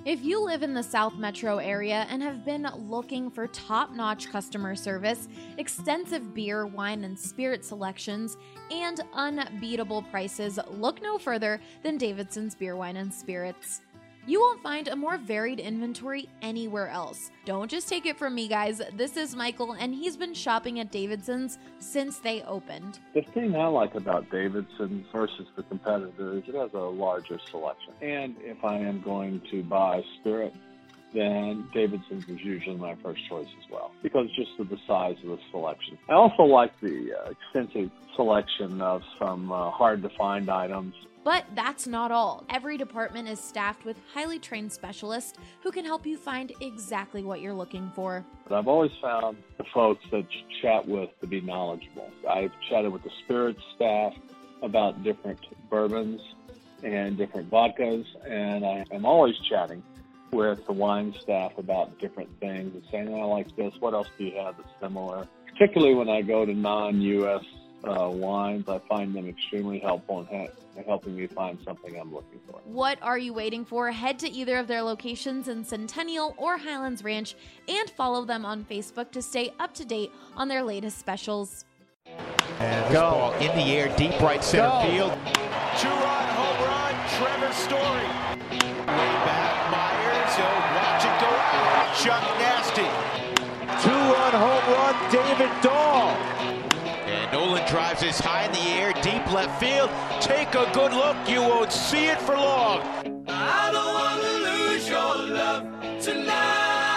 If you live in the South Metro area and have been looking for top-notch customer service, extensive beer, wine, and spirit selections, and unbeatable prices, look no further than Davidson's Beer, Wine, and Spirits. You won't find a more varied inventory anywhere else. Don't just take it from me, guys. This is Michael, and he's been shopping at Davidson's since they opened. The thing I like about Davidson's versus the competitor is it has a larger selection. And if I am going to buy spirit, then Davidson's is usually my first choice as well, because just of the size of the selection. I also like the extensive selection of some hard-to-find items. But that's not all. Every department is staffed with highly trained specialists who can help you find exactly what you're looking for. But I've always found the folks that you chat with to be knowledgeable. I've chatted with the spirits staff about different bourbons and different vodkas, and I am always chatting with the wine staff about different things and saying, I like this, what else do you have that's similar? Particularly when I go to non-U.S. wines, I find them extremely helpful in helping me find something I'm looking for. What are you waiting for? Head to either of their locations in Centennial or Highlands Ranch and follow them on Facebook to stay up to date on their latest specials. And this ball in the air, deep right center field. Two-run home run, Trevor Story. Way back, Myers, watch it go out. Chuck Nasty. Two-run home run, David Dahl. And Nolan drives this high in the air, deep left field. Take a good look, you won't see it for long. I don't want to lose your love tonight.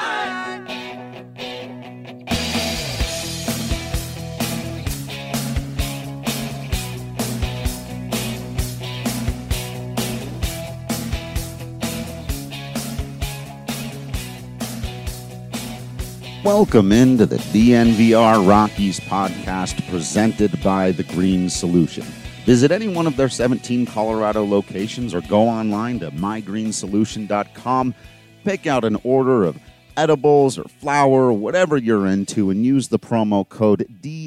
Welcome into the DNVR Rockies podcast presented by The Green Solution. Visit any one of their 17 Colorado locations or go online to mygreensolution.com. Pick out an order of edibles or flour, whatever you're into, and use the promo code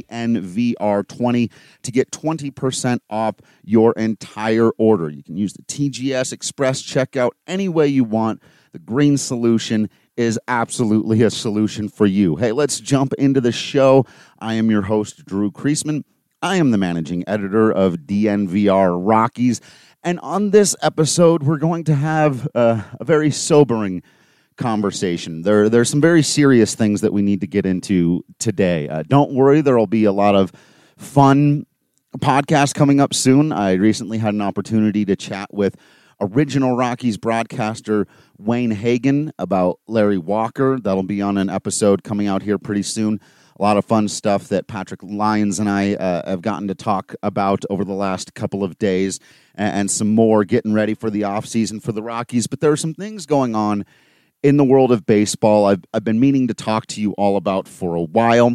DNVR20 to get 20% off your entire order. You can use the TGS Express checkout any way you want. The Green Solution is absolutely a solution for you. Hey, let's jump into the show. I am your host, Drew Kreisman. I am the managing editor of DNVR Rockies. And on this episode, we're going to have a very sobering conversation. There's some very serious things that we need to get into today. Don't worry, there will be a lot of fun podcasts coming up soon. I recently had an opportunity to chat with original Rockies broadcaster Wayne Hagan about Larry Walker. That'll be on an episode coming out here pretty soon. A lot of fun stuff that Patrick Lyons and I have gotten to talk about over the last couple of days, and some more getting ready for the offseason for the Rockies. But there are some things going on in the world of baseball I've been meaning to talk to you all about for a while,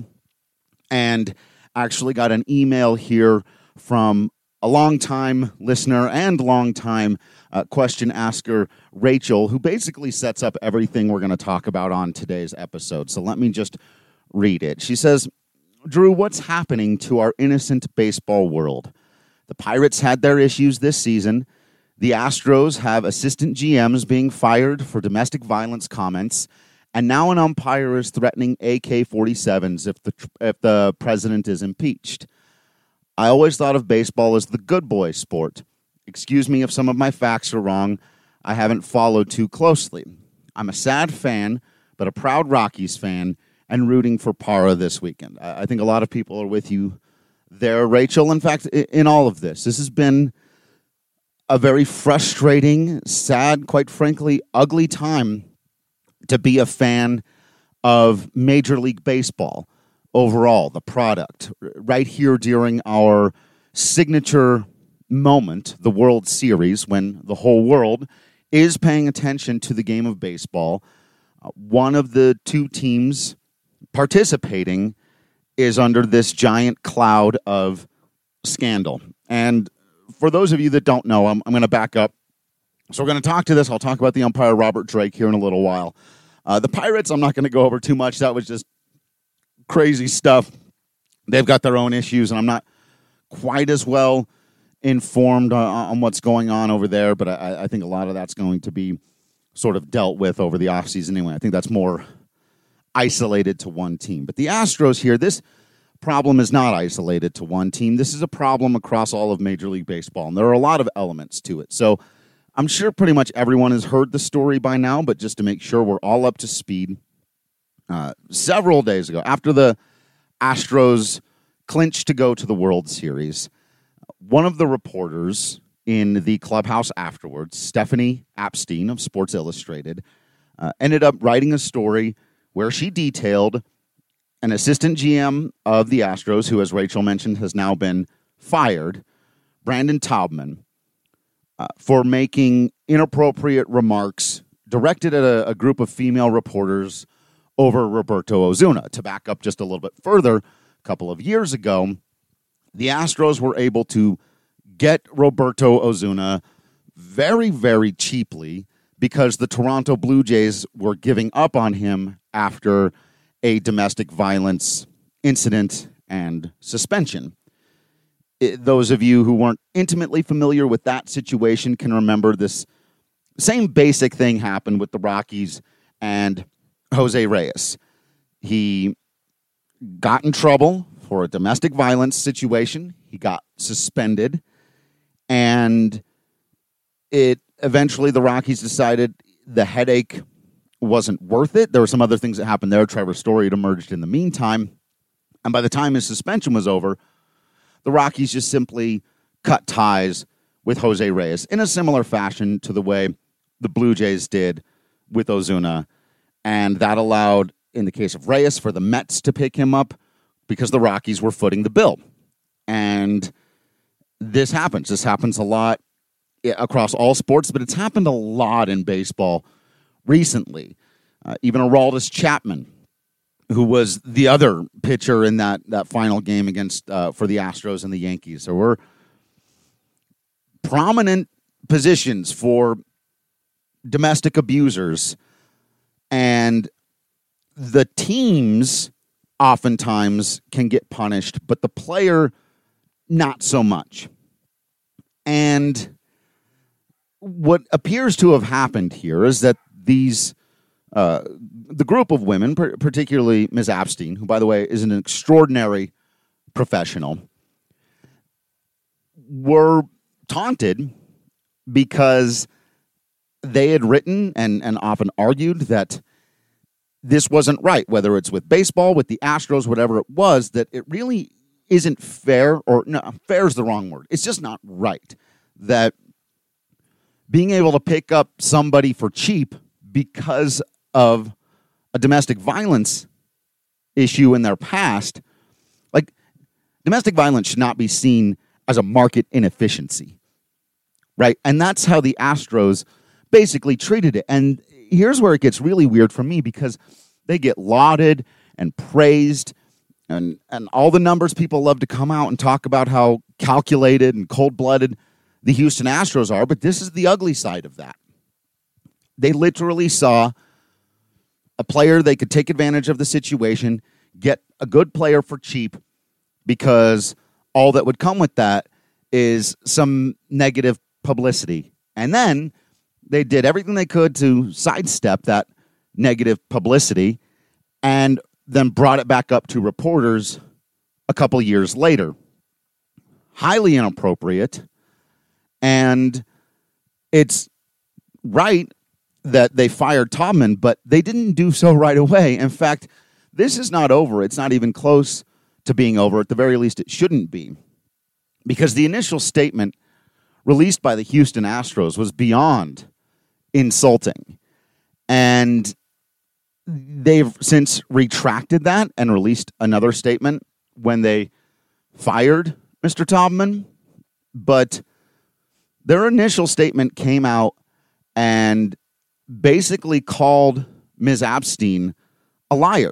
and actually got an email here from a longtime listener and longtime question asker, Rachel, who basically sets up everything we're going to talk about on today's episode. So let me just read it. She says, Drew, what's happening to our innocent baseball world? The Pirates had their issues this season. The Astros have assistant GMs being fired for domestic violence comments. And now an umpire is threatening AK-47s if the president is impeached. I always thought of baseball as the good boy sport. Excuse me if some of my facts are wrong. I haven't followed too closely. I'm a sad fan, but a proud Rockies fan, and rooting for Parra this weekend. I think a lot of people are with you there, Rachel. In fact, in all of this has been a very frustrating, sad, quite frankly, ugly time to be a fan of Major League Baseball overall, the product. Right here during our signature moment, the World Series, when the whole world is paying attention to the game of baseball, one of the two teams participating is under this giant cloud of scandal. And for those of you that don't know, I'm going to back up. So we're going to talk to this. I'll talk about the umpire, Robert Drake, here in a little while. The Pirates, I'm not going to go over too much. That was just crazy stuff. They've got their own issues, and I'm not quite as well informed on what's going on over there, but I think a lot of that's going to be sort of dealt with over the offseason anyway. I think that's more isolated to one team. But the Astros here, this problem is not isolated to one team. This is a problem across all of Major League Baseball, and there are a lot of elements to it. So I'm sure pretty much everyone has heard the story by now, but just to make sure we're all up to speed, several days ago, after the Astros clinched to go to the World Series, one of the reporters in the clubhouse afterwards, Stephanie Apstein of Sports Illustrated, ended up writing a story where she detailed an assistant GM of the Astros, who, as Rachel mentioned, has now been fired, Brandon Taubman, for making inappropriate remarks directed at a group of female reporters over Roberto Osuna. To back up just a little bit further, a couple of years ago, the Astros were able to get Roberto Osuna very, very cheaply because the Toronto Blue Jays were giving up on him after a domestic violence incident and suspension. Those of you who weren't intimately familiar with that situation can remember this same basic thing happened with the Rockies and Jose Reyes. He got in trouble for a domestic violence situation. He got suspended, and eventually the Rockies decided the headache wasn't worth it. There were some other things that happened there. Trevor Story had emerged in the meantime, and by the time his suspension was over, the Rockies just simply cut ties with Jose Reyes in a similar fashion to the way the Blue Jays did with Osuna. And that allowed, in the case of Reyes, for the Mets to pick him up because the Rockies were footing the bill. And this happens. This happens a lot across all sports, but it's happened a lot in baseball recently. Even Aroldis Chapman, who was the other pitcher in that final game against for the Astros and the Yankees. There were prominent positions for domestic abusers, and the teams oftentimes can get punished, but the player not so much. And what appears to have happened here is that these the group of women, particularly Ms. Apstein, who, by the way, is an extraordinary professional, were taunted because they had written and often argued that this wasn't right, whether it's with baseball, with the Astros, whatever it was, that it really isn't fair, or no, fair is the wrong word. It's just not right that being able to pick up somebody for cheap because of a domestic violence issue in their past, like, domestic violence should not be seen as a market inefficiency, right? And that's how the Astros basically treated it. And here's where it gets really weird for me, because they get lauded and praised, and all the numbers people love to come out and talk about how calculated and cold-blooded the Houston Astros are, but this is the ugly side of that. They literally saw a player they could take advantage of the situation, get a good player for cheap, because all that would come with that is some negative publicity. And then they did everything they could to sidestep that negative publicity and then brought it back up to reporters a couple years later. Highly inappropriate. And it's right that they fired Taubman, but they didn't do so right away. In fact, this is not over. It's not even close to being over. At the very least, it shouldn't be. Because the initial statement released by the Houston Astros was beyond insulting. And they've since retracted that and released another statement when they fired Mr. Taubman. But their initial statement came out and basically called Ms. Apstein a liar.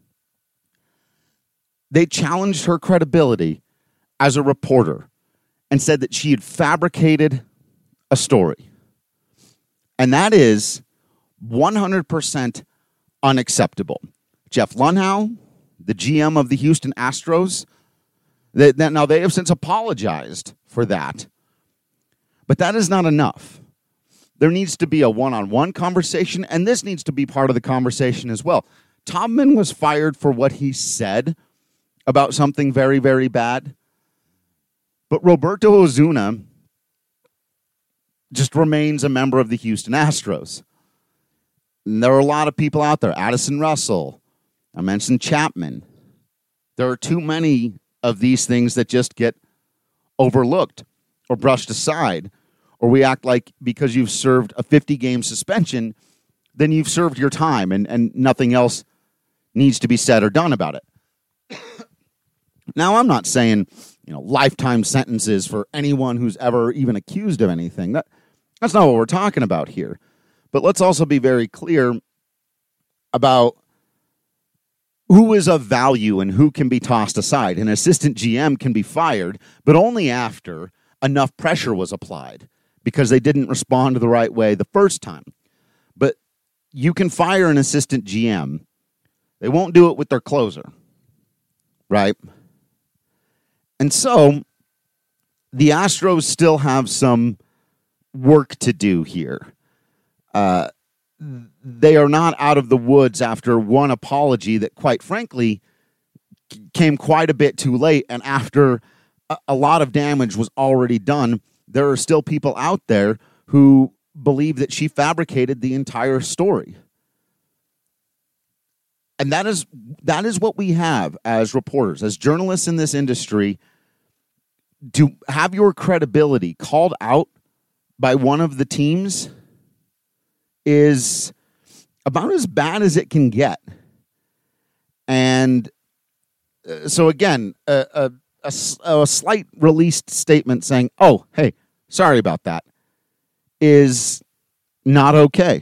They challenged her credibility as a reporter and said that she had fabricated a story. And that is 100% unacceptable. Jeff Lunhow, the GM of the Houston Astros, now they have since apologized for that. But that is not enough. there needs to be a one-on-one conversation, and this needs to be part of the conversation as well. Taubman was fired for what he said about something very, very bad, but Roberto Osuna just remains a member of the Houston Astros. And there are a lot of people out there. Addison Russell, I mentioned Chapman. There are too many of these things that just get overlooked or brushed aside, or we act like because you've served a 50-game suspension, then you've served your time and nothing else needs to be said or done about it. Now, I'm not saying, lifetime sentences for anyone who's ever even accused of anything. That's not what we're talking about here. But let's also be very clear about who is of value and who can be tossed aside. An assistant GM can be fired, but only after enough pressure was applied because they didn't respond the right way the first time. But you can fire an assistant GM. They won't do it with their closer, right? And so the Astros still have some work to do here. They are not out of the woods after one apology that, quite frankly, came quite a bit too late. And after a lot of damage was already done, there are still people out there who believe that she fabricated the entire story. And that is what we have as reporters, as journalists in this industry, to have your credibility called out by one of the teams is about as bad as it can get. And so again, a slight released statement saying, oh, hey, sorry about that, is not okay.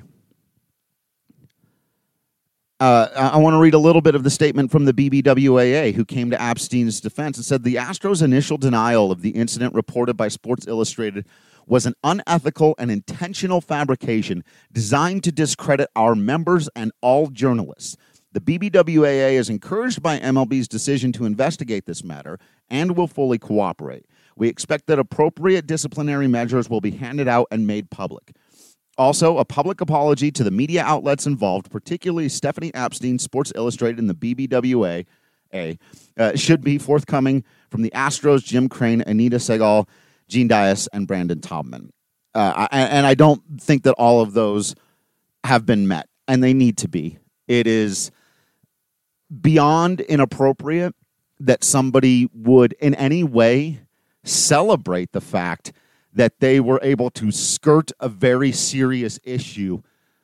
I want to read a little bit of the statement from the BBWAA, who came to Epstein's defense and said the Astros' initial denial of the incident reported by Sports Illustrated was an unethical and intentional fabrication designed to discredit our members and all journalists. The BBWAA is encouraged by MLB's decision to investigate this matter and will fully cooperate. We expect that appropriate disciplinary measures will be handed out and made public. Also, a public apology to the media outlets involved, particularly Stephanie Epstein, Sports Illustrated, and the BBWAA, should be forthcoming from the Astros, Jim Crane, Anita Segal, Gene Dias, and Brandon Taubman. And I don't think that all of those have been met, and they need to be. It is beyond inappropriate that somebody would in any way celebrate the fact that they were able to skirt a very serious issue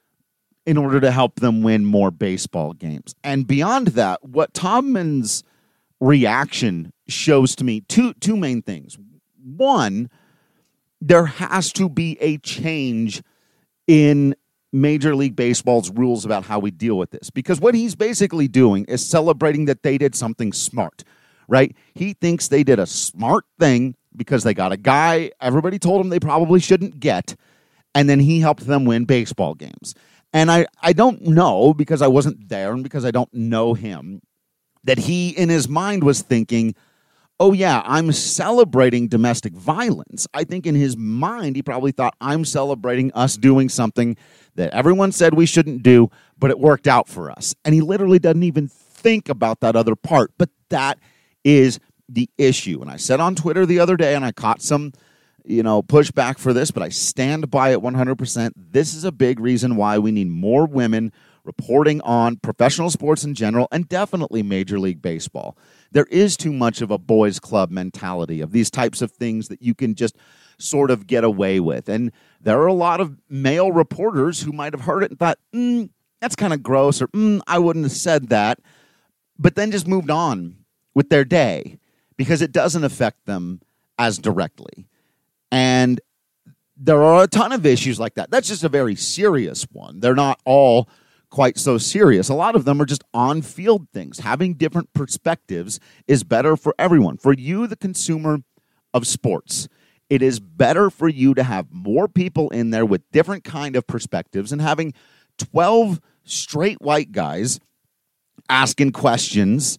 in order to help them win more baseball games. And beyond that, what Taubman's reaction shows to me two main things. One, there has to be a change in Major League Baseball's rules about how we deal with this. Because what he's basically doing is celebrating that they did something smart, right? He thinks they did a smart thing because they got a guy everybody told him they probably shouldn't get, and then he helped them win baseball games. And I don't know, because I wasn't there and because I don't know him, that he in his mind was thinking, oh yeah, I'm celebrating domestic violence. I think in his mind he probably thought, I'm celebrating us doing something that everyone said we shouldn't do, but it worked out for us. And he literally doesn't even think about that other part. But that is the issue. And I said on Twitter the other day, and I caught some, pushback for this, but I stand by it 100%. This is a big reason why we need more women reporting on professional sports in general, and definitely Major League Baseball. There is too much of a boys' club mentality of these types of things that you can just sort of get away with. And there are a lot of male reporters who might have heard it and thought, that's kind of gross, or I wouldn't have said that, but then just moved on with their day, because it doesn't affect them as directly. And there are a ton of issues like that. That's just a very serious one. They're not all quite so serious. A lot of them are just on-field things. Having different perspectives is better for everyone. For you, the consumer of sports, it is better for you to have more people in there with different kind of perspectives, and having 12 straight white guys asking questions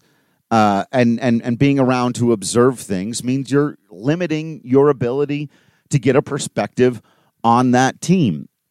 and being around to observe things means you're limiting your ability to get a perspective on that team.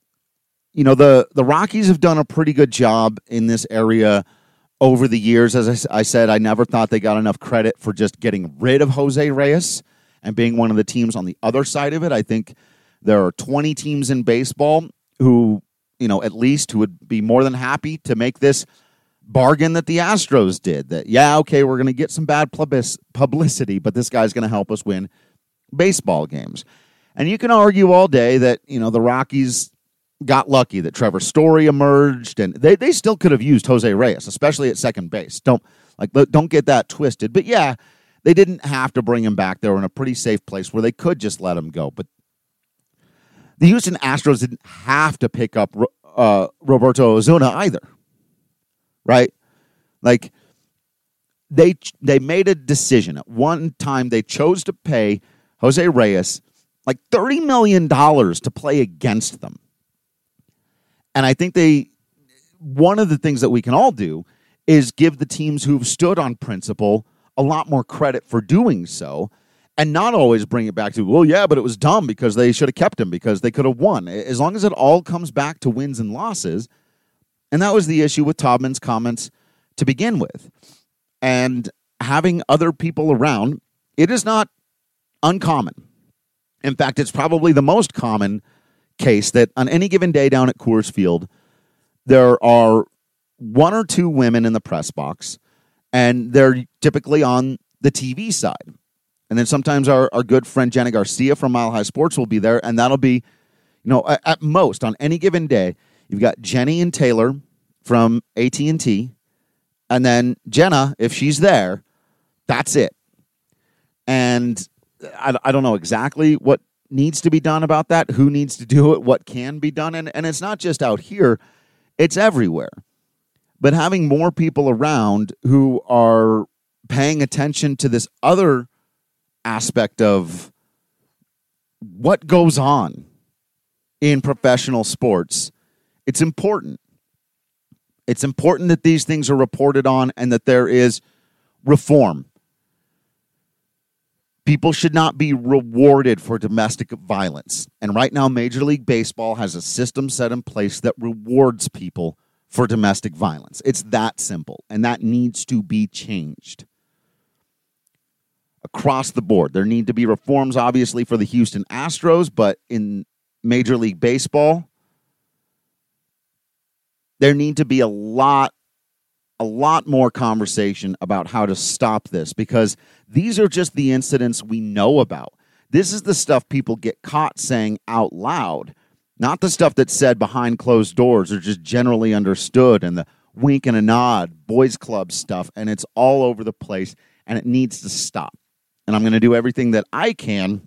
the Rockies have done a pretty good job in this area over the years. As I said, I never thought they got enough credit for just getting rid of Jose Reyes and being one of the teams on the other side of it. I think there are 20 teams in baseball who, at least who would be more than happy to make this bargain that the Astros did. That, we're going to get some bad publicity, but this guy's going to help us win baseball games. And you can argue all day that, the Rockies got lucky that Trevor Story emerged, and they still could have used Jose Reyes, especially at second base. Don't get that twisted. But yeah, they didn't have to bring him back. They were in a pretty safe place where they could just let him go. But the Houston Astros didn't have to pick up Roberto Osuna either, right? Like, they made a decision. At one time, they chose to pay Jose Reyes like $30 million to play against them. And I think one of the things that we can all do is give the teams who've stood on principle a lot more credit for doing so, and not always bring it back to, well, yeah, but it was dumb because they should have kept him because they could have won. As long as it all comes back to wins and losses. And that was the issue with Taubman's comments to begin with. And having other people around, it is not uncommon. In fact, it's probably the most common case that on any given day down at Coors Field, there are one or two women in the press box, and they're typically on the TV side. And then sometimes our good friend Jenna Garcia from Mile High Sports will be there, and that'll be, at most on any given day, you've got Jenny and Taylor from AT&T, and then Jenna, if she's there, that's it. And I don't know exactly what needs to be done about that, who needs to do it, what can be done. And it's not just out here, it's everywhere. But having more people around who are paying attention to this other aspect of what goes on in professional sports, it's important. It's important that these things are reported on and that there is reform. People should not be rewarded for domestic violence. And right now, Major League Baseball has a system set in place that rewards people for domestic violence. It's that simple, and that needs to be changed. Across the board, there need to be reforms, obviously, for the Houston Astros, but in Major League Baseball, there need to be a lot more conversation about how to stop this, because these are just the incidents we know about. This is the stuff people get caught saying out loud, not the stuff that's said behind closed doors or just generally understood and the wink and a nod, boys club stuff, and it's all over the place, and it needs to stop. And I'm going to do everything that I can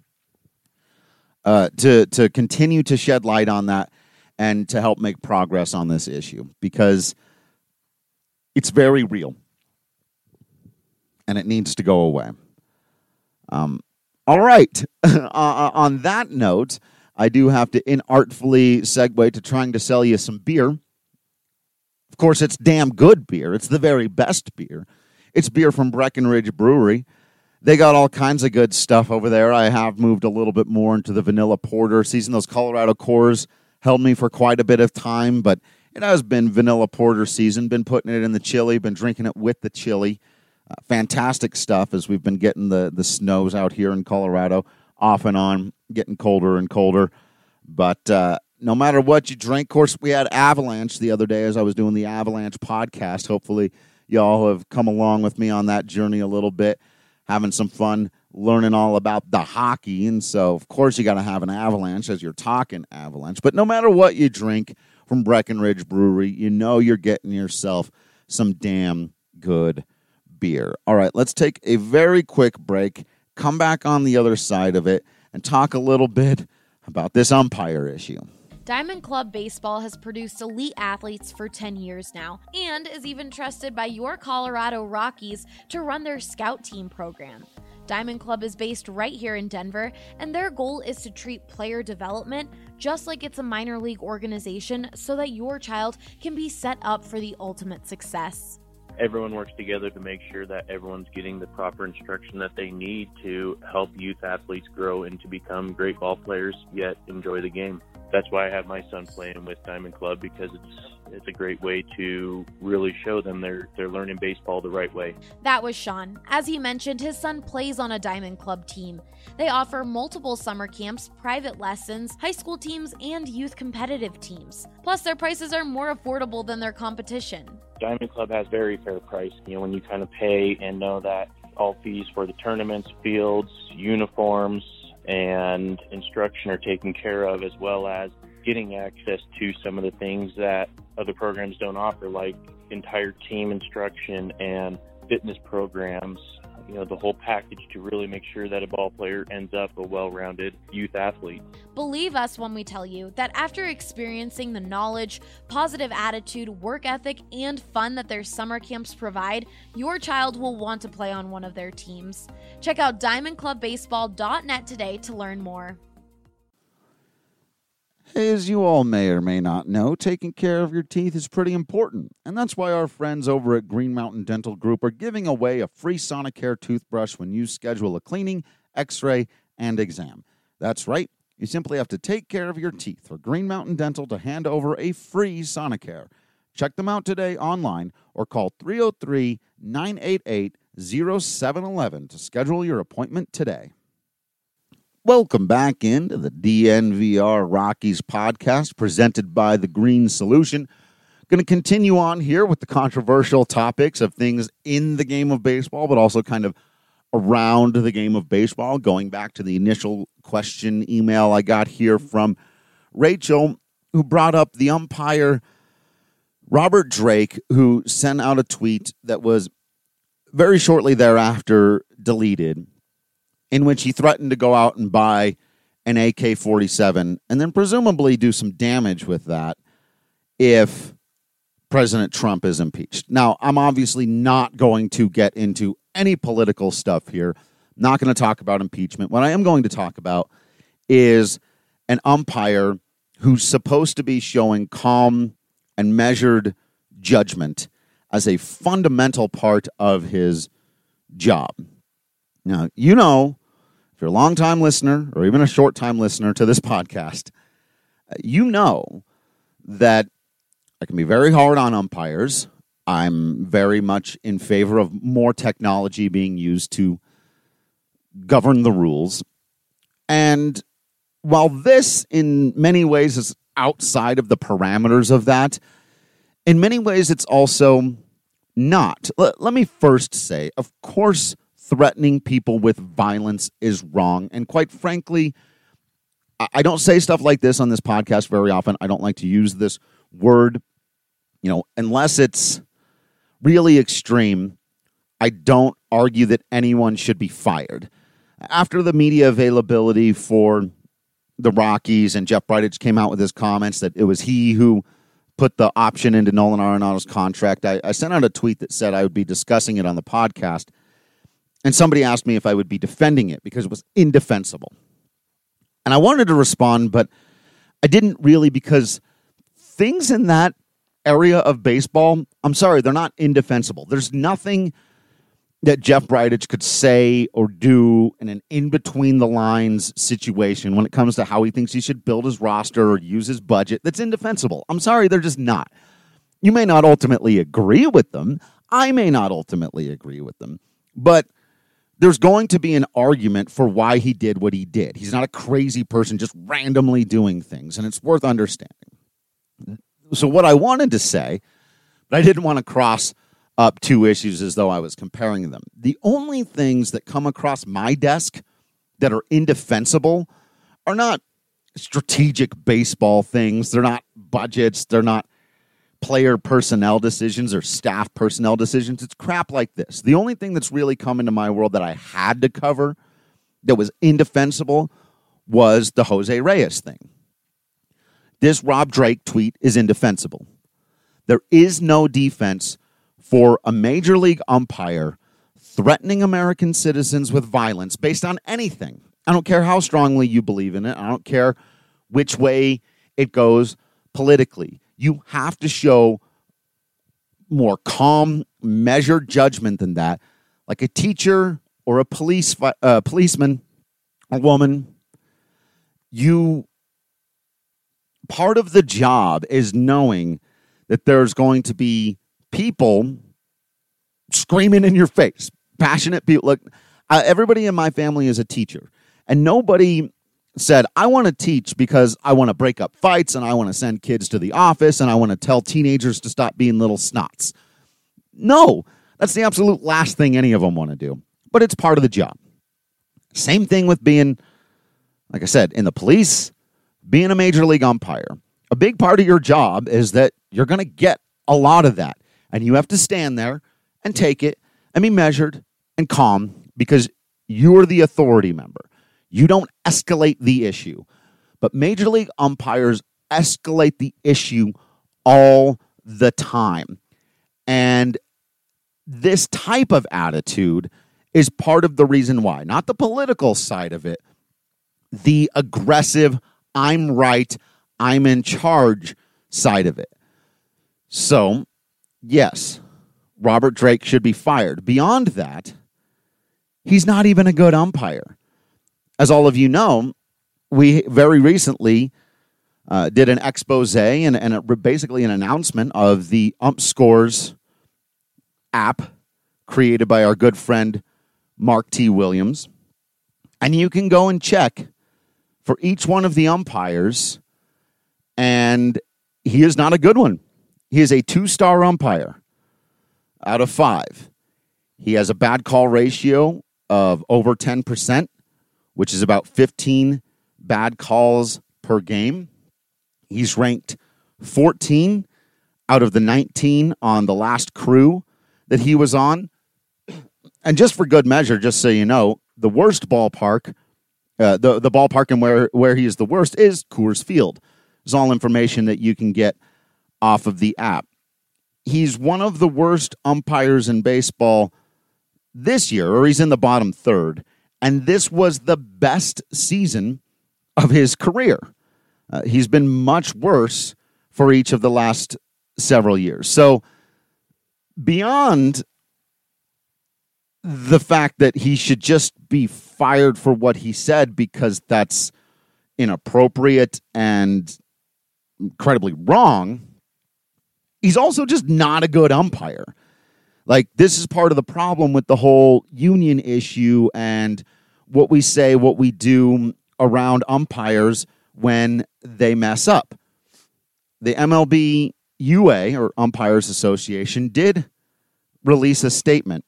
to continue to shed light on that and to help make progress on this issue, because it's very real, and it needs to go away. All right. On that note, I do have to inartfully segue to trying to sell you some beer. Of course, it's damn good beer. It's the very best beer. It's beer from Breckenridge Brewery. They got all kinds of good stuff over there. I have moved a little bit more into the vanilla porter season. Those Colorado Cores held me for quite a bit of time, but it has been vanilla porter season. Been putting it in the chili, been drinking it with the chili. Fantastic stuff as we've been getting the snows out here in Colorado off and on, getting colder and colder. But no matter what you drink, of course, we had Avalanche the other day as I was doing the Avalanche podcast. Hopefully y'all have come along with me on that journey a little bit, having some fun learning all about the hockey. And so, of course, you got to have an Avalanche as you're talking Avalanche. But no matter what you drink from Breckenridge Brewery, you know you're getting yourself some damn good beer. All right, let's take a very quick break, come back on the other side of it, and talk a little bit about this umpire issue. Diamond Club Baseball has produced elite athletes for 10 years now and is even trusted by your Colorado Rockies to run their scout team program. Diamond Club is based right here in Denver, and their goal is to treat player development just like it's a minor league organization so that your child can be set up for the ultimate success. everyone works together to make sure that everyone's getting the proper instruction that they need to help youth athletes grow and to become great ball players, yet enjoy the game. That's why I have my son playing with Diamond Club, because it's a great way to really show them they're learning baseball the right way. That was Sean. As he mentioned, his son plays on a Diamond Club team. They offer multiple summer camps, private lessons, high school teams, and youth competitive teams. Plus, their prices are more affordable than their competition. Diamond Club has very fair price. When you kind of pay and know that all fees for the tournaments, fields, uniforms, and instruction are taken care of, as well as getting access to some of the things that other programs don't offer, like entire team instruction and fitness programs, the whole package to really make sure that a ball player ends up a well-rounded youth athlete. Believe us when we tell you that after experiencing the knowledge, positive attitude, work ethic, and fun that their summer camps provide, your child will want to play on one of their teams. Check out diamondclubbaseball.net today to learn more. As you all may or may not know, taking care of your teeth is pretty important, and that's why our friends over at Green Mountain Dental Group are giving away a free Sonicare toothbrush when you schedule a cleaning, x-ray, and exam. That's right, you simply have to take care of your teeth for Green Mountain Dental to hand over a free Sonicare. Check them out today online or call 303-988-0711 to schedule your appointment today. Welcome back into the DNVR Rockies podcast presented by The Green Solution. Going to continue on here with the controversial topics of things in the game of baseball, but also kind of around the game of baseball. Going back to the initial question email I got here from Rachel, who brought up the umpire Robert Drake, who sent out a tweet that was very shortly thereafter deleted, in which he threatened to go out and buy an AK-47 and then presumably do some damage with that if President Trump is impeached. Now, I'm obviously not going to get into any political stuff here. Not going to talk about impeachment. What I am going to talk about is an umpire who's supposed to be showing calm and measured judgment as a fundamental part of his job. Now, if you're a long-time listener or even a short-time listener to this podcast, you know that I can be very hard on umpires. I'm very much in favor of more technology being used to govern the rules. And while this, in many ways, is outside of the parameters of that, in many ways, it's also not. Let me first say, of course, threatening people with violence is wrong. And quite frankly, I don't say stuff like this on this podcast very often. I don't like to use this word, unless it's really extreme. I don't argue that anyone should be fired. After the media availability for the Rockies and Jeff Bridich came out with his comments that it was he who put the option into Nolan Arenado's contract, I sent out a tweet that said I would be discussing it on the podcast. And somebody asked me if I would be defending it because it was indefensible. And I wanted to respond, but I didn't really, because things in that area of baseball, I'm sorry, they're not indefensible. There's nothing that Jeff Bridich could say or do in an in-between-the-lines situation when it comes to how he thinks he should build his roster or use his budget that's indefensible. I'm sorry, they're just not. You may not ultimately agree with them. I may not ultimately agree with them. But there's going to be an argument for why he did what he did. He's not a crazy person just randomly doing things, and it's worth understanding. So what I wanted to say, but I didn't want to cross up two issues as though I was comparing them. The only things that come across my desk that are indefensible are not strategic baseball things. They're not budgets. They're not player personnel decisions or staff personnel decisions. It's crap like this. The only thing that's really come into my world that I had to cover that was indefensible was the Jose Reyes thing. This Rob Drake tweet is indefensible. There is no defense for a major league umpire threatening American citizens with violence based on anything. I don't care how strongly you believe in it. I don't care which way it goes politically. You have to show more calm, measured judgment than that, like a teacher or a policeman or woman, part of the job is knowing that there's going to be people screaming in your face, passionate people. Look, everybody in my family is a teacher, and nobody said, I want to teach because I want to break up fights and I want to send kids to the office and I want to tell teenagers to stop being little snots. No, that's the absolute last thing any of them want to do, but it's part of the job. Same thing with being, like I said, in the police, being a major league umpire. A big part of your job is that you're going to get a lot of that, and you have to stand there and take it and be measured and calm because you are the authority member. You don't escalate the issue. But major league umpires escalate the issue all the time. And this type of attitude is part of the reason why. Not the political side of it. The aggressive, I'm right, I'm in charge side of it. So, yes, Robert Drake should be fired. Beyond that, he's not even a good umpire. As all of you know, we very recently did an expose and basically an announcement of the UmpScores app created by our good friend Mark T. Williams. And you can go and check for each one of the umpires, and he is not a good one. He is a 2-star umpire out of 5. He has a bad call ratio of over 10%. Which is about 15 bad calls per game. He's ranked 14 out of the 19 on the last crew that he was on. And just for good measure, just so you know, the worst ballpark, the ballpark and where he is the worst is Coors Field. It's all information that you can get off of the app. He's one of the worst umpires in baseball this year, or he's in the bottom third. And this was the best season of his career. He's been much worse for each of the last several years. So beyond the fact that he should just be fired for what he said because that's inappropriate and incredibly wrong, he's also just not a good umpire. Like, this is part of the problem with the whole union issue and what we say, what we do around umpires when they mess up. The MLB UA, or Umpires Association, did release a statement.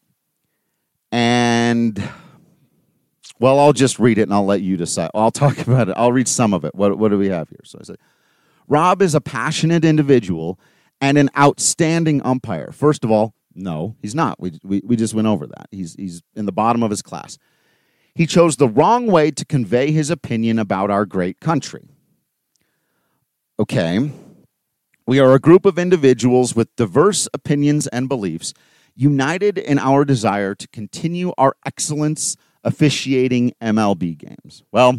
And, well, I'll just read it and I'll let you decide. I'll talk about it. I'll read some of it. What do we have here? So I said, Rob is a passionate individual and an outstanding umpire. First of all, no, he's not. We just went over that. He's in the bottom of his class. He chose the wrong way to convey his opinion about our great country. Okay. We are a group of individuals with diverse opinions and beliefs, united in our desire to continue our excellence officiating MLB games. Well,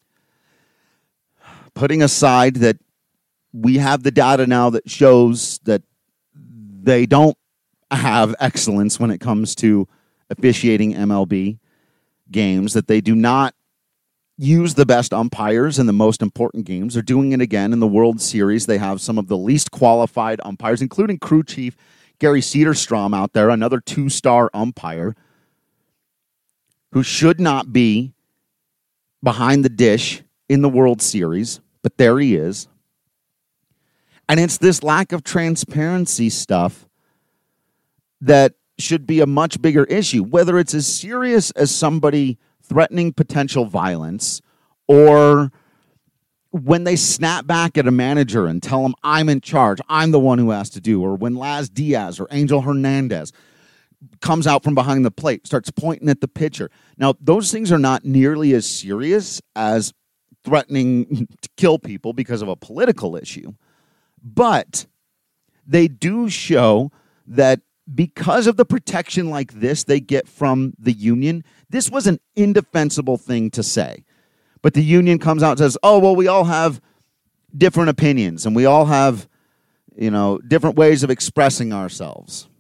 putting aside that we have the data now that shows that they don't have excellence when it comes to officiating MLB games, that they do not use the best umpires in the most important games. They're doing it again in the World Series. They have some of the least qualified umpires, including crew chief Gary Cederstrom out there, another 2-star umpire who should not be behind the dish in the World Series, but there he is. And it's this lack of transparency stuff that should be a much bigger issue, whether it's as serious as somebody threatening potential violence or when they snap back at a manager and tell him, I'm in charge, I'm the one who has to do, or when Laz Diaz or Angel Hernandez comes out from behind the plate, starts pointing at the pitcher. Now, those things are not nearly as serious as threatening to kill people because of a political issue, but they do show that because of the protection like this they get from the union, this was an indefensible thing to say. But the union comes out and says, oh, well, we all have different opinions and we all have, different ways of expressing ourselves.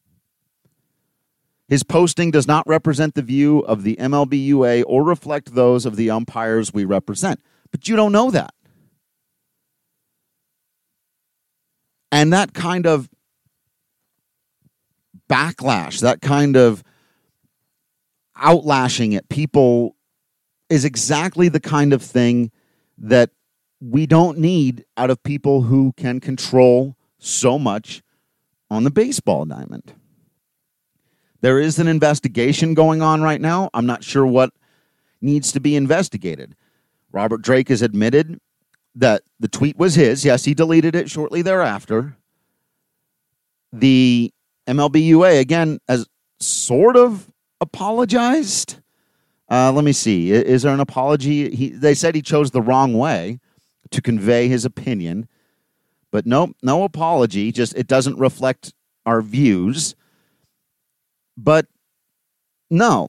His posting does not represent the view of the MLBUA or reflect those of the umpires we represent. But you don't know that. And that kind of backlash, that kind of outlashing at people is exactly the kind of thing that we don't need out of people who can control so much on the baseball diamond. There is an investigation going on right now. I'm not sure what needs to be investigated. Robert Drake has admitted that the tweet was his. Yes, he deleted it shortly thereafter. The MLBUA, again, has sort of apologized. Let me see. Is there an apology? They said he chose the wrong way to convey his opinion. But no apology. Just it doesn't reflect our views. But no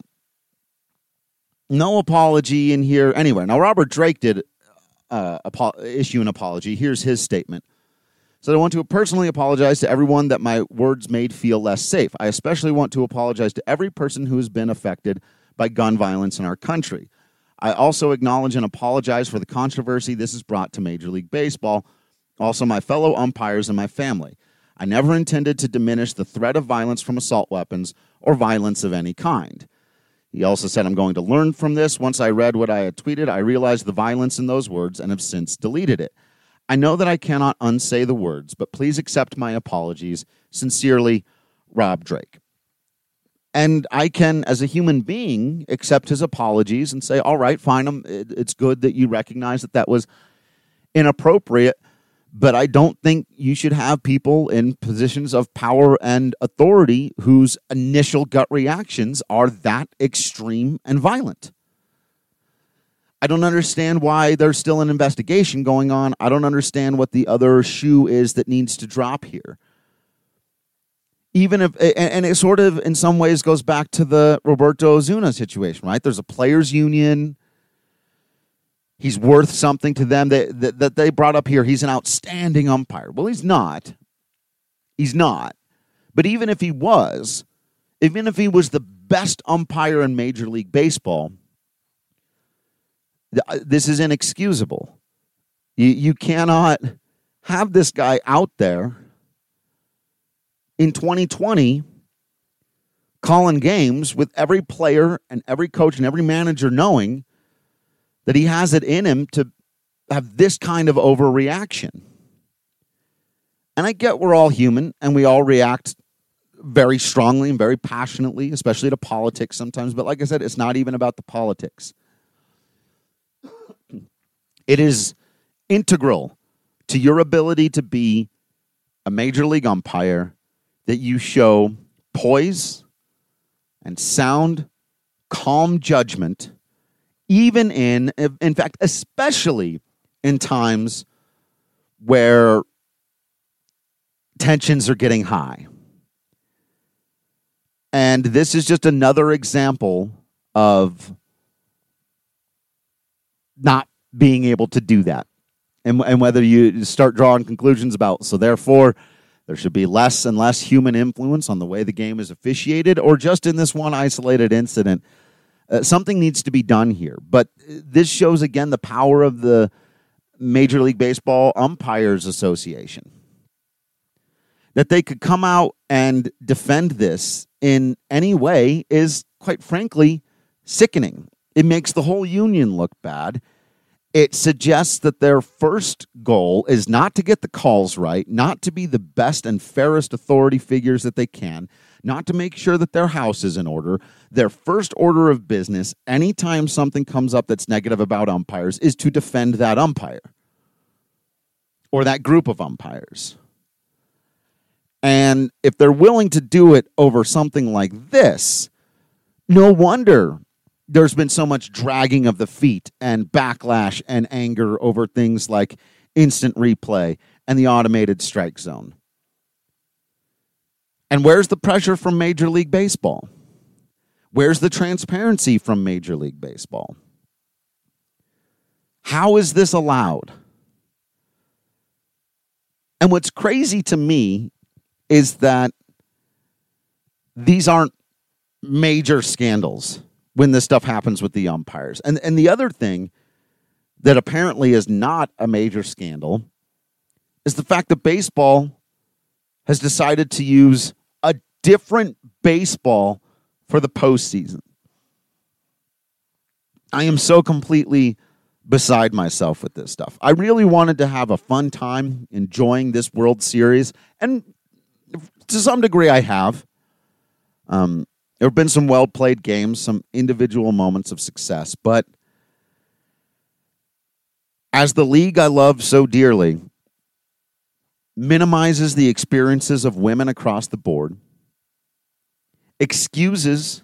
apology in here anywhere. Now, Robert Drake did issue an apology. Here's his statement. So I want to personally apologize to everyone that my words made feel less safe. I especially want to apologize to every person who has been affected by gun violence in our country. I also acknowledge and apologize for the controversy this has brought to Major League Baseball, also my fellow umpires and my family. I never intended to diminish the threat of violence from assault weapons or violence of any kind. He also said, I'm going to learn from this. Once I read what I had tweeted, I realized the violence in those words and have since deleted it. I know that I cannot unsay the words, but please accept my apologies. Sincerely, Rob Drake. And I can, as a human being, accept his apologies and say, all right, fine, it's good that you recognize that was inappropriate, but I don't think you should have people in positions of power and authority whose initial gut reactions are that extreme and violent. I don't understand why there's still an investigation going on. I don't understand what the other shoe is that needs to drop here. Even if, and it sort of in some ways goes back to the Roberto Osuna situation, right? There's a players union. He's worth something to them that they brought up here. He's an outstanding umpire. Well, he's not. He's not. But even if he was the best umpire in Major League Baseball, this is inexcusable. You cannot have this guy out there in 2020 calling games with every player and every coach and every manager knowing that he has it in him to have this kind of overreaction. And I get we're all human and we all react very strongly and very passionately, especially to politics sometimes. But like I said, it's not even about the politics. It is integral to your ability to be a major league umpire that you show poise and sound, calm judgment, even in fact, especially in times where tensions are getting high. And this is just another example of not being able to do that. And whether you start drawing conclusions about, so therefore there should be less and less human influence on the way the game is officiated, or just in this one isolated incident, something needs to be done here. But this shows, again, the power of the Major League Baseball Umpires Association. That they could come out and defend this in any way is, quite frankly, sickening. It makes the whole union look bad. It suggests that their first goal is not to get the calls right, not to be the best and fairest authority figures that they can, not to make sure that their house is in order. Their first order of business, anytime something comes up that's negative about umpires, is to defend that umpire or that group of umpires. And if they're willing to do it over something like this, no wonder there's been so much dragging of the feet and backlash and anger over things like instant replay and the automated strike zone. And where's the pressure from Major League Baseball? Where's the transparency from Major League Baseball? How is this allowed? And what's crazy to me is that these aren't major scandals when this stuff happens with the umpires. And the other thing that apparently is not a major scandal is the fact that baseball has decided to use a different baseball for the postseason. I am so completely beside myself with this stuff. I really wanted to have a fun time enjoying this World Series, and to some degree I have. There have been some well-played games, some individual moments of success, but as the league I love so dearly minimizes the experiences of women across the board, excuses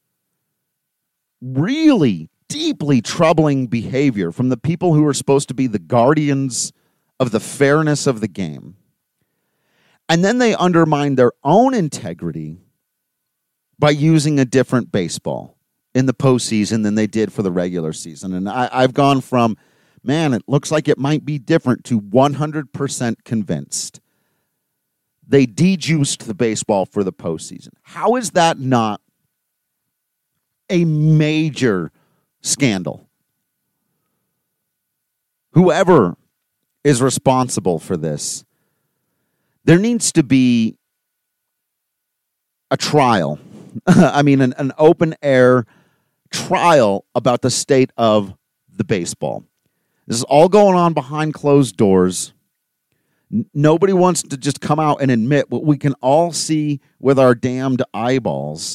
really deeply troubling behavior from the people who are supposed to be the guardians of the fairness of the game, and then they undermine their own integrity by using a different baseball in the postseason than they did for the regular season. And I've gone from, man, it looks like it might be different, to 100% convinced they dejuiced the baseball for the postseason. How is that not a major scandal? Whoever is responsible for this, there needs to be a trial. I mean, an open-air trial about the state of the baseball. This is all going on behind closed doors. Nobody wants to just come out and admit what we can all see with our damned eyeballs.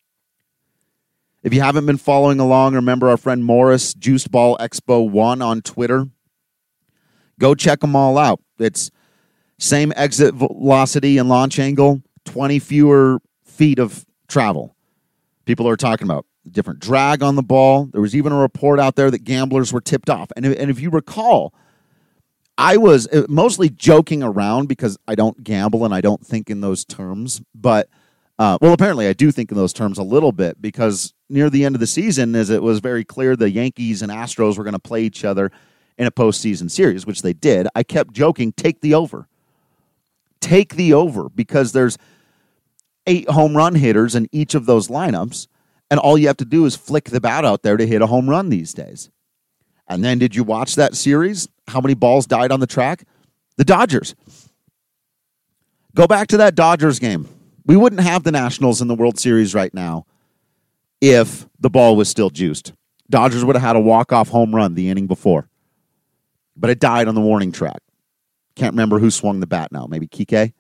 If you haven't been following along, remember our friend Morris, Juiced Ball Expo 1 on Twitter. Go check them all out. It's same exit velocity and launch angle, 20 fewer feet of travel. People are talking about different drag on the ball. There was even a report out there that gamblers were tipped off. And if you recall, I was mostly joking around because I don't gamble and I don't think in those terms. But, well, apparently I do think in those terms a little bit, because near the end of the season, as it was very clear the Yankees and Astros were going to play each other in a postseason series, which they did, I kept joking, take the over. Take the over, because there's 8 home run hitters in each of those lineups, and all you have to do is flick the bat out there to hit a home run these days. And then did you watch that series? How many balls died on the track? The Dodgers. Go back to that Dodgers game. We wouldn't have the Nationals in the World Series right now if the ball was still juiced. Dodgers would have had a walk-off home run the inning before. But it died on the warning track. Can't remember who swung the bat now. Maybe Kike?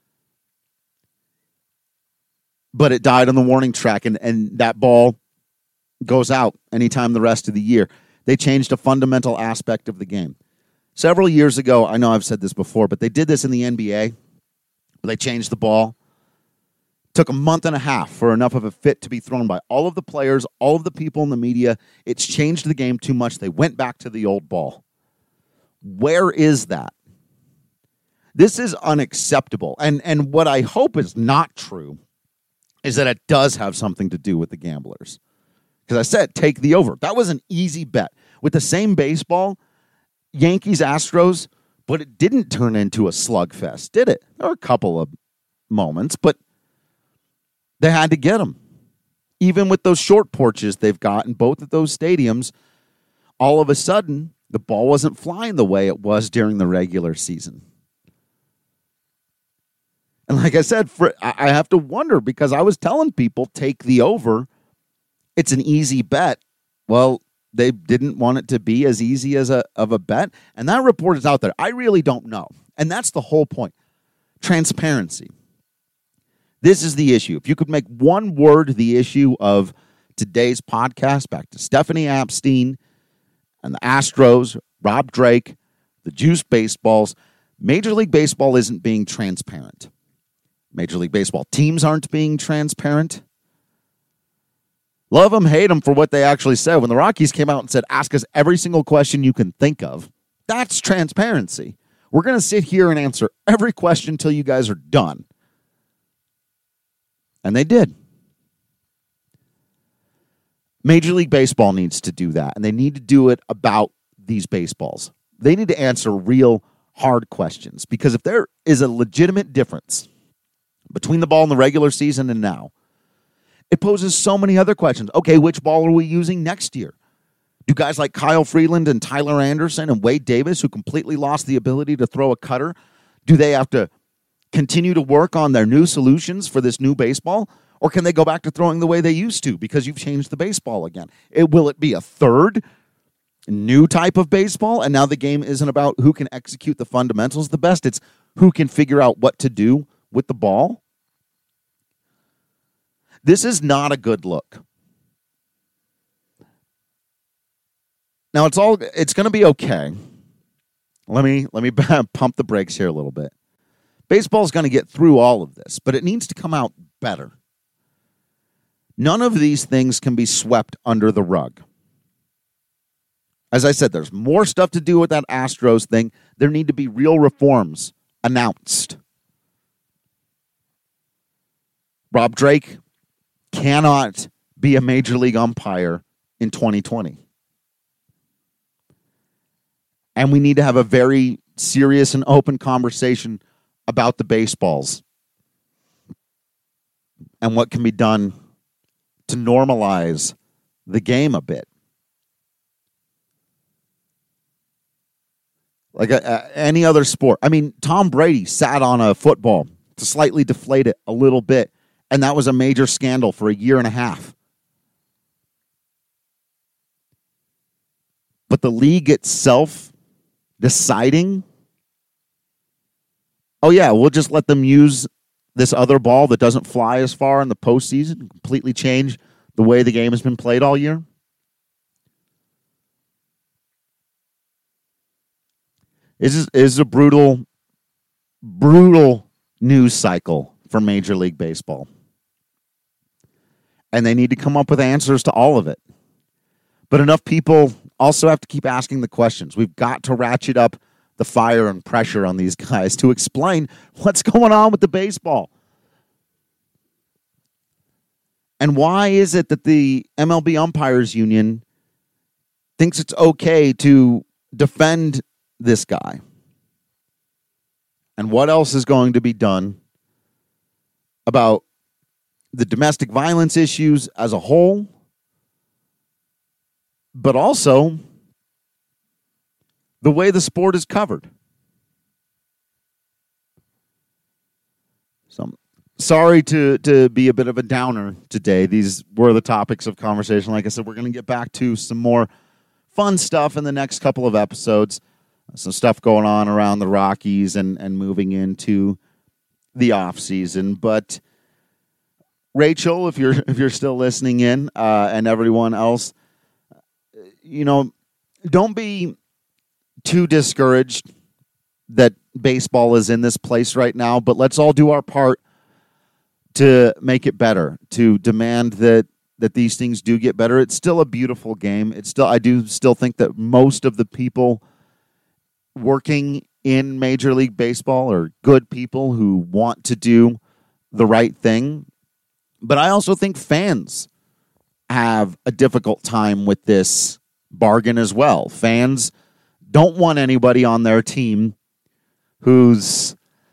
But it died on the warning track, and that ball goes out anytime the rest of the year. They changed a fundamental aspect of the game. Several years ago, I know I've said this before, but they did this in the NBA. They changed the ball. Took a month and a half for enough of a fit to be thrown by all of the players, all of the people in the media. It's changed the game too much. They went back to the old ball. Where is that? This is unacceptable. And what I hope is not true is that it does have something to do with the gamblers. Because I said, take the over. That was an easy bet. With the same baseball, Yankees, Astros, but it didn't turn into a slugfest, did it? There were a couple of moments, but they had to get them. Even with those short porches they've got in both of those stadiums, all of a sudden, the ball wasn't flying the way it was during the regular season. And like I said, I have to wonder, because I was telling people, take the over. It's an easy bet. Well, they didn't want it to be as easy as of a bet. And that report is out there. I really don't know. And that's the whole point. Transparency. This is the issue. If you could make one word the issue of today's podcast, back to Stephanie Apstein and the Astros, Rob Drake, the Juice Baseballs, Major League Baseball isn't being transparent. Major League Baseball teams aren't being transparent. Love them, hate them for what they actually said. When the Rockies came out and said, ask us every single question you can think of, that's transparency. We're going to sit here and answer every question until you guys are done. And they did. Major League Baseball needs to do that, and they need to do it about these baseballs. They need to answer real, hard questions. Because if there is a legitimate difference between the ball in the regular season and now, it poses so many other questions. Okay, which ball are we using next year? Do guys like Kyle Freeland and Tyler Anderson and Wade Davis, who completely lost the ability to throw a cutter, do they have to continue to work on their new solutions for this new baseball? Or can they go back to throwing the way they used to because you've changed the baseball again? Will it be a third new type of baseball? And now the game isn't about who can execute the fundamentals the best. It's who can figure out what to do with the ball. This is not a good look. Now it's going to be okay. Let me pump the brakes here a little bit. Baseball's going to get through all of this, but it needs to come out better. None of these things can be swept under the rug. As I said, there's more stuff to do with that Astros thing. There need to be real reforms announced. Rob Drake cannot be a major league umpire in 2020. And we need to have a very serious and open conversation about the baseballs and what can be done to normalize the game a bit. Like any other sport. I mean, Tom Brady sat on a football to slightly deflate it a little bit, and that was a major scandal for a year and a half. But the league itself deciding, oh yeah, we'll just let them use this other ball that doesn't fly as far in the postseason and completely change the way the game has been played all year. This is a brutal news cycle for Major League Baseball. And they need to come up with answers to all of it. But enough people also have to keep asking the questions. We've got to ratchet up the fire and pressure on these guys to explain what's going on with the baseball. And why is it that the MLB Umpires Union thinks it's okay to defend this guy? And what else is going to be done about the domestic violence issues as a whole, but also the way the sport is covered? So I'm sorry to be a bit of a downer today. These were the topics of conversation. Like I said, we're going to get back to some more fun stuff in the next couple of episodes. Some stuff going on around the Rockies and moving into the off season. But Rachel, if you're still listening in, and everyone else, don't be too discouraged that baseball is in this place right now, but let's all do our part to make it better, to demand that these things do get better. It's still a beautiful game. I do still think that most of the people working in Major League Baseball are good people who want to do the right thing. But I also think fans have a difficult time with this bargain as well. Fans don't want anybody on their team who's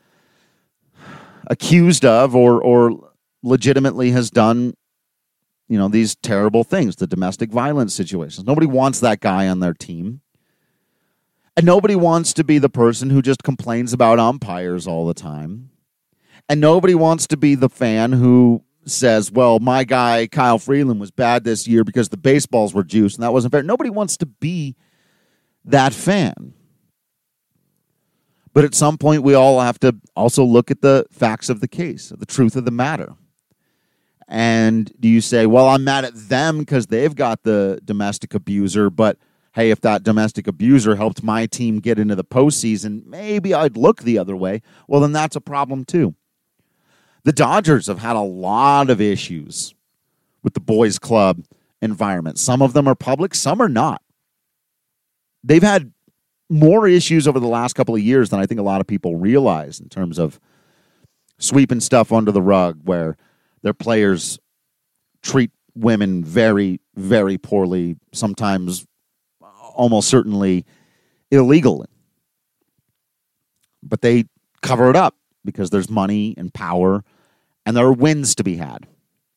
accused of or legitimately has done, these terrible things, the domestic violence situations. Nobody wants that guy on their team. And nobody wants to be the person who just complains about umpires all the time. And nobody wants to be the fan who says, well, my guy, Kyle Freeland, was bad this year because the baseballs were juiced and that wasn't fair. Nobody wants to be that fan. But at some point, we all have to also look at the facts of the case, the truth of the matter. And do you say, well, I'm mad at them because they've got the domestic abuser, but hey, if that domestic abuser helped my team get into the postseason, maybe I'd look the other way. Well, then that's a problem too. The Dodgers have had a lot of issues with the boys club environment. Some of them are public, some are not. They've had more issues over the last couple of years than I think a lot of people realize in terms of sweeping stuff under the rug where their players treat women very, very poorly, sometimes almost certainly illegal. but they cover it up because there's money and power and there are wins to be had.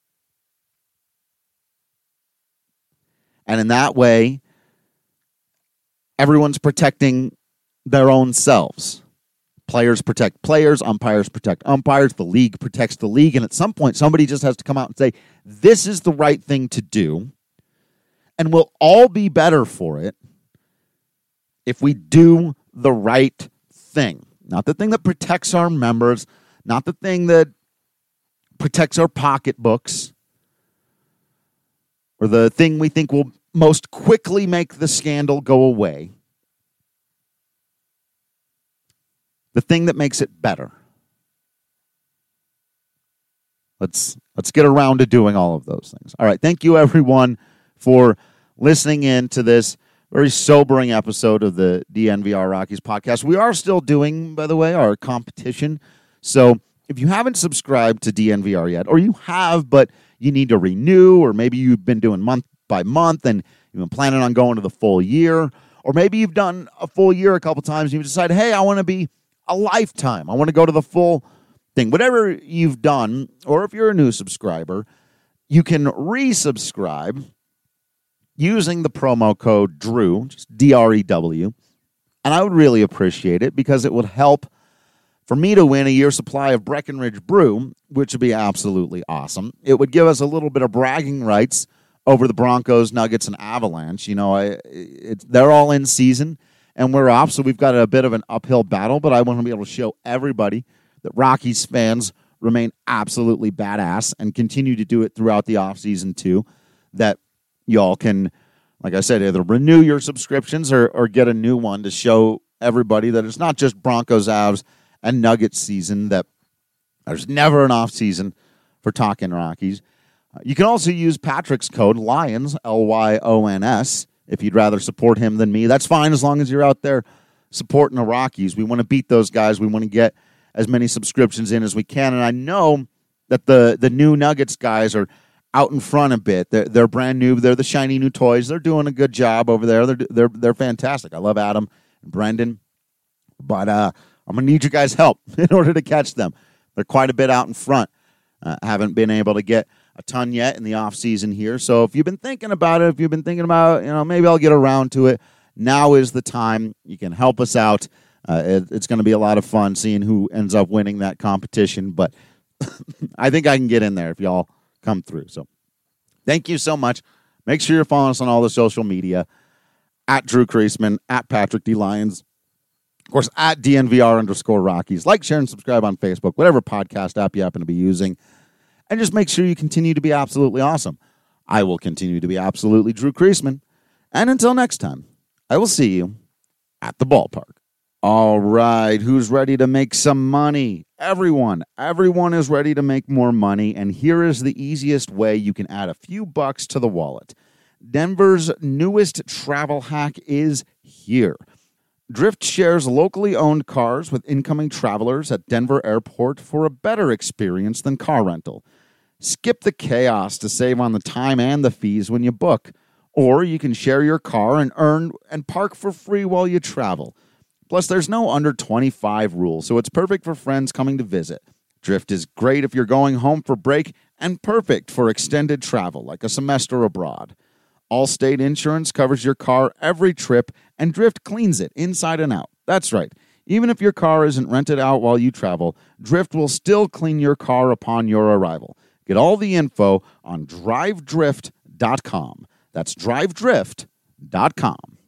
And in that way, everyone's protecting their own selves. Players protect players, umpires protect umpires, the league protects the league, and at some point somebody just has to come out and say, this is the right thing to do, and we'll all be better for it if we do the right thing. Not the thing that protects our members, not the thing that protects our pocketbooks, or the thing we think will most quickly make the scandal go away. The thing that makes it better. Let's get around to doing all of those things. All right, thank you everyone for listening in to this very sobering episode of the DNVR Rockies podcast. We are still doing, by the way, our competition. So if you haven't subscribed to DNVR yet, or you have, but you need to renew, or maybe you've been doing month by month and you've been planning on going to the full year, or maybe you've done a full year a couple times and you've decided, hey, I want to be a lifetime. I want to go to the full thing. Whatever you've done, or if you're a new subscriber, you can resubscribe using the promo code DREW, just DREW, and I would really appreciate it because it would help for me to win a year's supply of Breckenridge Brew, which would be absolutely awesome. It would give us a little bit of bragging rights over the Broncos, Nuggets, and Avalanche. You know, they're all in season, and we're off, so we've got a bit of an uphill battle, but I want to be able to show everybody that Rockies fans remain absolutely badass and continue to do it throughout the offseason too, that y'all can, like I said, either renew your subscriptions or get a new one to show everybody that it's not just Broncos, Avs, and Nuggets season, that there's never an off season for Talking Rockies. You can also use Patrick's code, LYONS, LYONS, if you'd rather support him than me. That's fine as long as you're out there supporting the Rockies. We want to beat those guys. We want to get as many subscriptions in as we can. And I know that the new Nuggets guys are out in front a bit. They're brand new. They're the shiny new toys. They're doing a good job over there. They're fantastic. I love Adam and Brendan. But I'm going to need you guys' help in order to catch them. They're quite a bit out in front. Haven't been able to get a ton yet in the off season here. So if you've been thinking about it, if you've been thinking about, maybe I'll get around to it, now is the time. You can help us out. It's going to be a lot of fun seeing who ends up winning that competition. But I think I can get in there if y'all come through. So thank you so much. Make sure you're following us on all the social media, at Drew Creasman, at Patrick D. Lyons, of course, at DNVR_Rockies. Like, share, and subscribe on Facebook, whatever podcast app you happen to be using. And just make sure you continue to be absolutely awesome. I will continue to be absolutely Drew Creasman. And until next time, I will see you at the ballpark. All right, who's ready to make some money? Everyone is ready to make more money, and here is the easiest way you can add a few bucks to the wallet. Denver's newest travel hack is here. Drift shares locally owned cars with incoming travelers at Denver Airport for a better experience than car rental. Skip the chaos to save on the time and the fees when you book, or you can share your car and earn and park for free while you travel. Plus, there's no under 25 rule, so it's perfect for friends coming to visit. Drift is great if you're going home for break and perfect for extended travel, like a semester abroad. Allstate Insurance covers your car every trip, and Drift cleans it inside and out. That's right. Even if your car isn't rented out while you travel, Drift will still clean your car upon your arrival. Get all the info on drivedrift.com. That's drivedrift.com.